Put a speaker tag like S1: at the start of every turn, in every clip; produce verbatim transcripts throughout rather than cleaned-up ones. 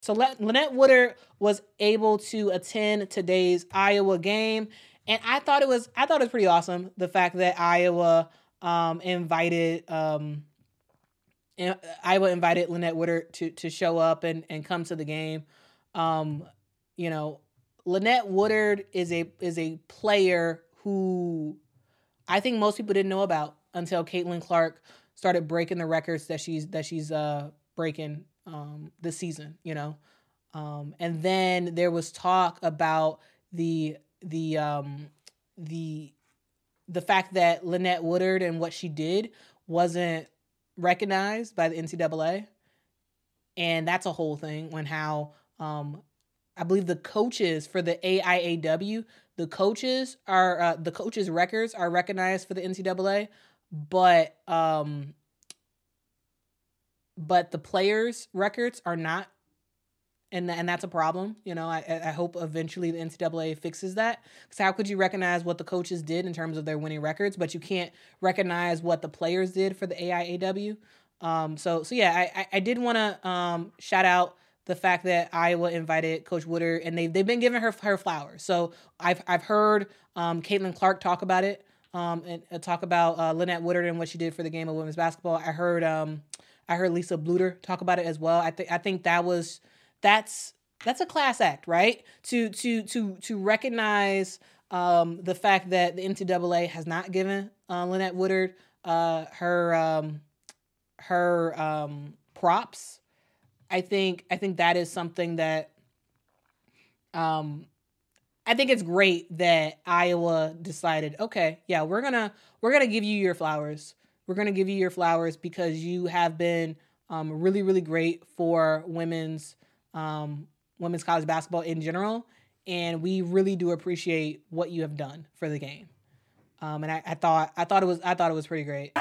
S1: So Lynette Woodard was able to attend today's Iowa game, and I thought it was I thought it was pretty awesome, the fact that Iowa um, invited um, Iowa invited Lynette Woodard to to show up and, and come to the game. Um, you know, Lynette Woodard is a is a player who I think most people didn't know about until Caitlin Clark started breaking the records that she's that she's uh, breaking um, this season. You know, um, and then there was talk about the the um, the the fact that Lynette Woodard and what she did wasn't recognized by the N C double A, and that's a whole thing. When how um, I believe the coaches for the A I A W, the coaches are uh, the coaches' records are recognized for the N C double A, but um, but the players' records are not, and and that's a problem. You know, I I hope eventually the N C double A fixes that, because how could you recognize what the coaches did in terms of their winning records, but you can't recognize what the players did for the A I A W? Um, so so yeah, I I did want to um, shout out the fact that Iowa invited Coach Woodard, and they've they've been giving her her flowers. So I've I've heard um, Caitlin Clark talk about it, um, and uh, talk about uh, Lynette Woodard and what she did for the game of women's basketball. I heard um, I heard Lisa Bluter talk about it as well. I think I think that was that's that's a class act, right? To to to to recognize um, the fact that the N C double A has not given uh, Lynette Woodard uh, her um, her um, props. I think I think that is something that um, I think it's great that Iowa decided, okay, yeah, we're gonna we're gonna give you your flowers. We're gonna give you your flowers because you have been um, really really great for women's um, women's college basketball in general, and we really do appreciate what you have done for the game. Um, and I, I thought I thought it was I thought it was pretty great.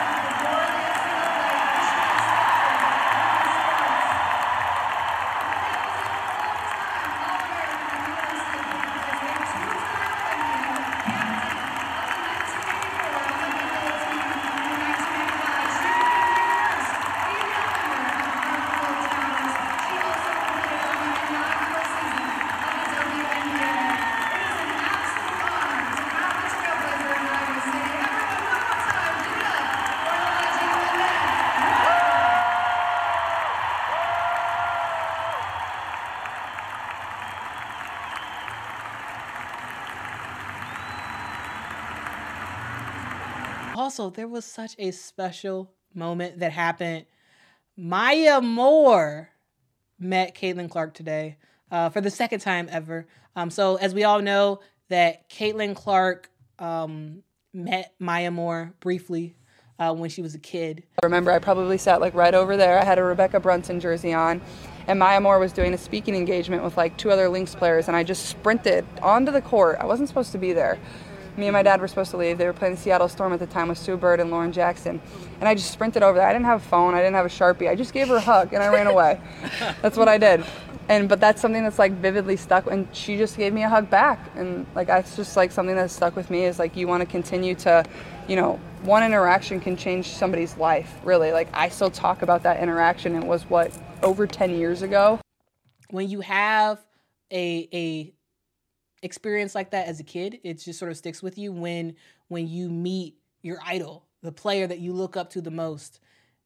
S1: Also, there was such a special moment that happened. Maya Moore met Caitlin Clark today uh, for the second time ever. Um, so as we all know, that Caitlin Clark um, met Maya Moore briefly uh, when she was a kid.
S2: I remember I probably sat like right over there. I had a Rebecca Brunson jersey on, and Maya Moore was doing a speaking engagement with like two other Lynx players, and I just sprinted onto the court. I wasn't supposed to be there. Me and my dad were supposed to leave. They were playing the Seattle Storm at the time with Sue Bird and Lauren Jackson. And I just sprinted over there. I didn't have a phone. I didn't have a Sharpie. I just gave her a hug, and I ran away. That's what I did. And but that's something that's like vividly stuck. And she just gave me a hug back. And like that's just like something that's stuck with me is like you want to continue to, you know, one interaction can change somebody's life, really. Like I still talk about that interaction. It was, what, over ten years ago?
S1: When you have a a experience like that as a kid, it just sort of sticks with you when when you meet your idol, the player that you look up to the most,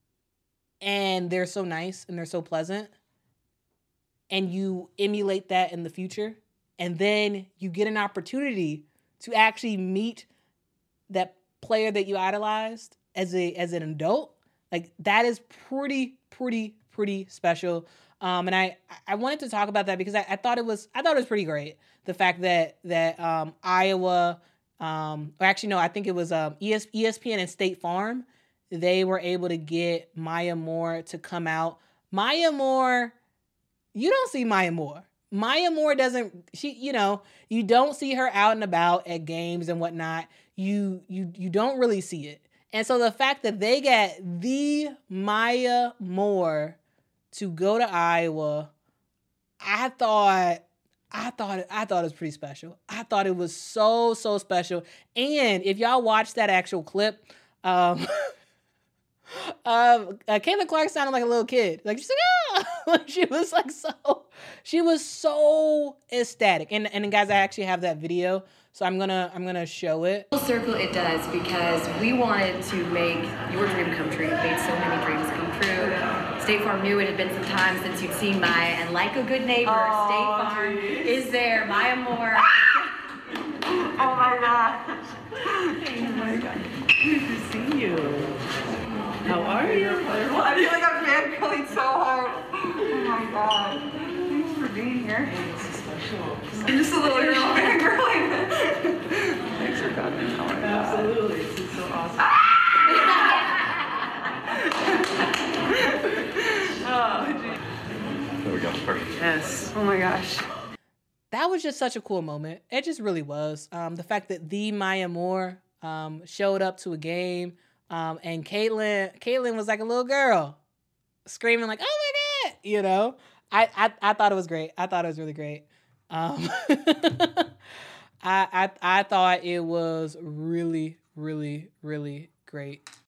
S1: and they're so nice and they're so pleasant, and you emulate that in the future, and then you get an opportunity to actually meet that player that you idolized as a as an adult. Like that is pretty pretty pretty special. Um, and I, I wanted to talk about that because I, I thought it was I thought it was pretty great. The fact that that um, Iowa, um, or actually no, I think it was um, E S, E S P N and State Farm, they were able to get Maya Moore to come out. Maya Moore, you don't see Maya Moore. Maya Moore doesn't. She, you know, you don't see her out and about at games and whatnot. You you you don't really see it. And so the fact that they got the Maya Moore to go to Iowa, I thought, I thought, I thought it was pretty special. I thought it was so, so special. And if y'all watch that actual clip, um, um, uh, Caitlin Clark sounded like a little kid. Like she's like, ah! Like she was like so, she was so ecstatic. And and guys, I actually have that video, so I'm gonna I'm gonna show it.
S3: Full circle, it does, because we wanted to make your dream come true. It made so many dreams come true. State Farm knew it had been some time since you'd seen Maya, and like a good neighbor, oh, State Farm geez. is there. Maya Moore.
S2: Oh my gosh. Oh my god.
S4: Good to see you. How are you?
S2: I feel like I'm fangirling so hard. Oh my god. Thanks for being here.
S4: It's special.
S2: I'm just a little girl fangirling. Thanks for coming. Oh my god.
S4: Absolutely. This is so awesome. Oh, geez.
S5: There we go. Perfect.
S4: Yes.
S2: Oh my gosh.
S1: That was just such a cool moment. It just really was. Um, the fact that the Maya Moore um, showed up to a game, um, and Caitlin, Caitlin was like a little girl, screaming like, "Oh my god!" You know, I, I, I thought it was great. I thought it was really great. Um, I, I, I thought it was really, really, really great.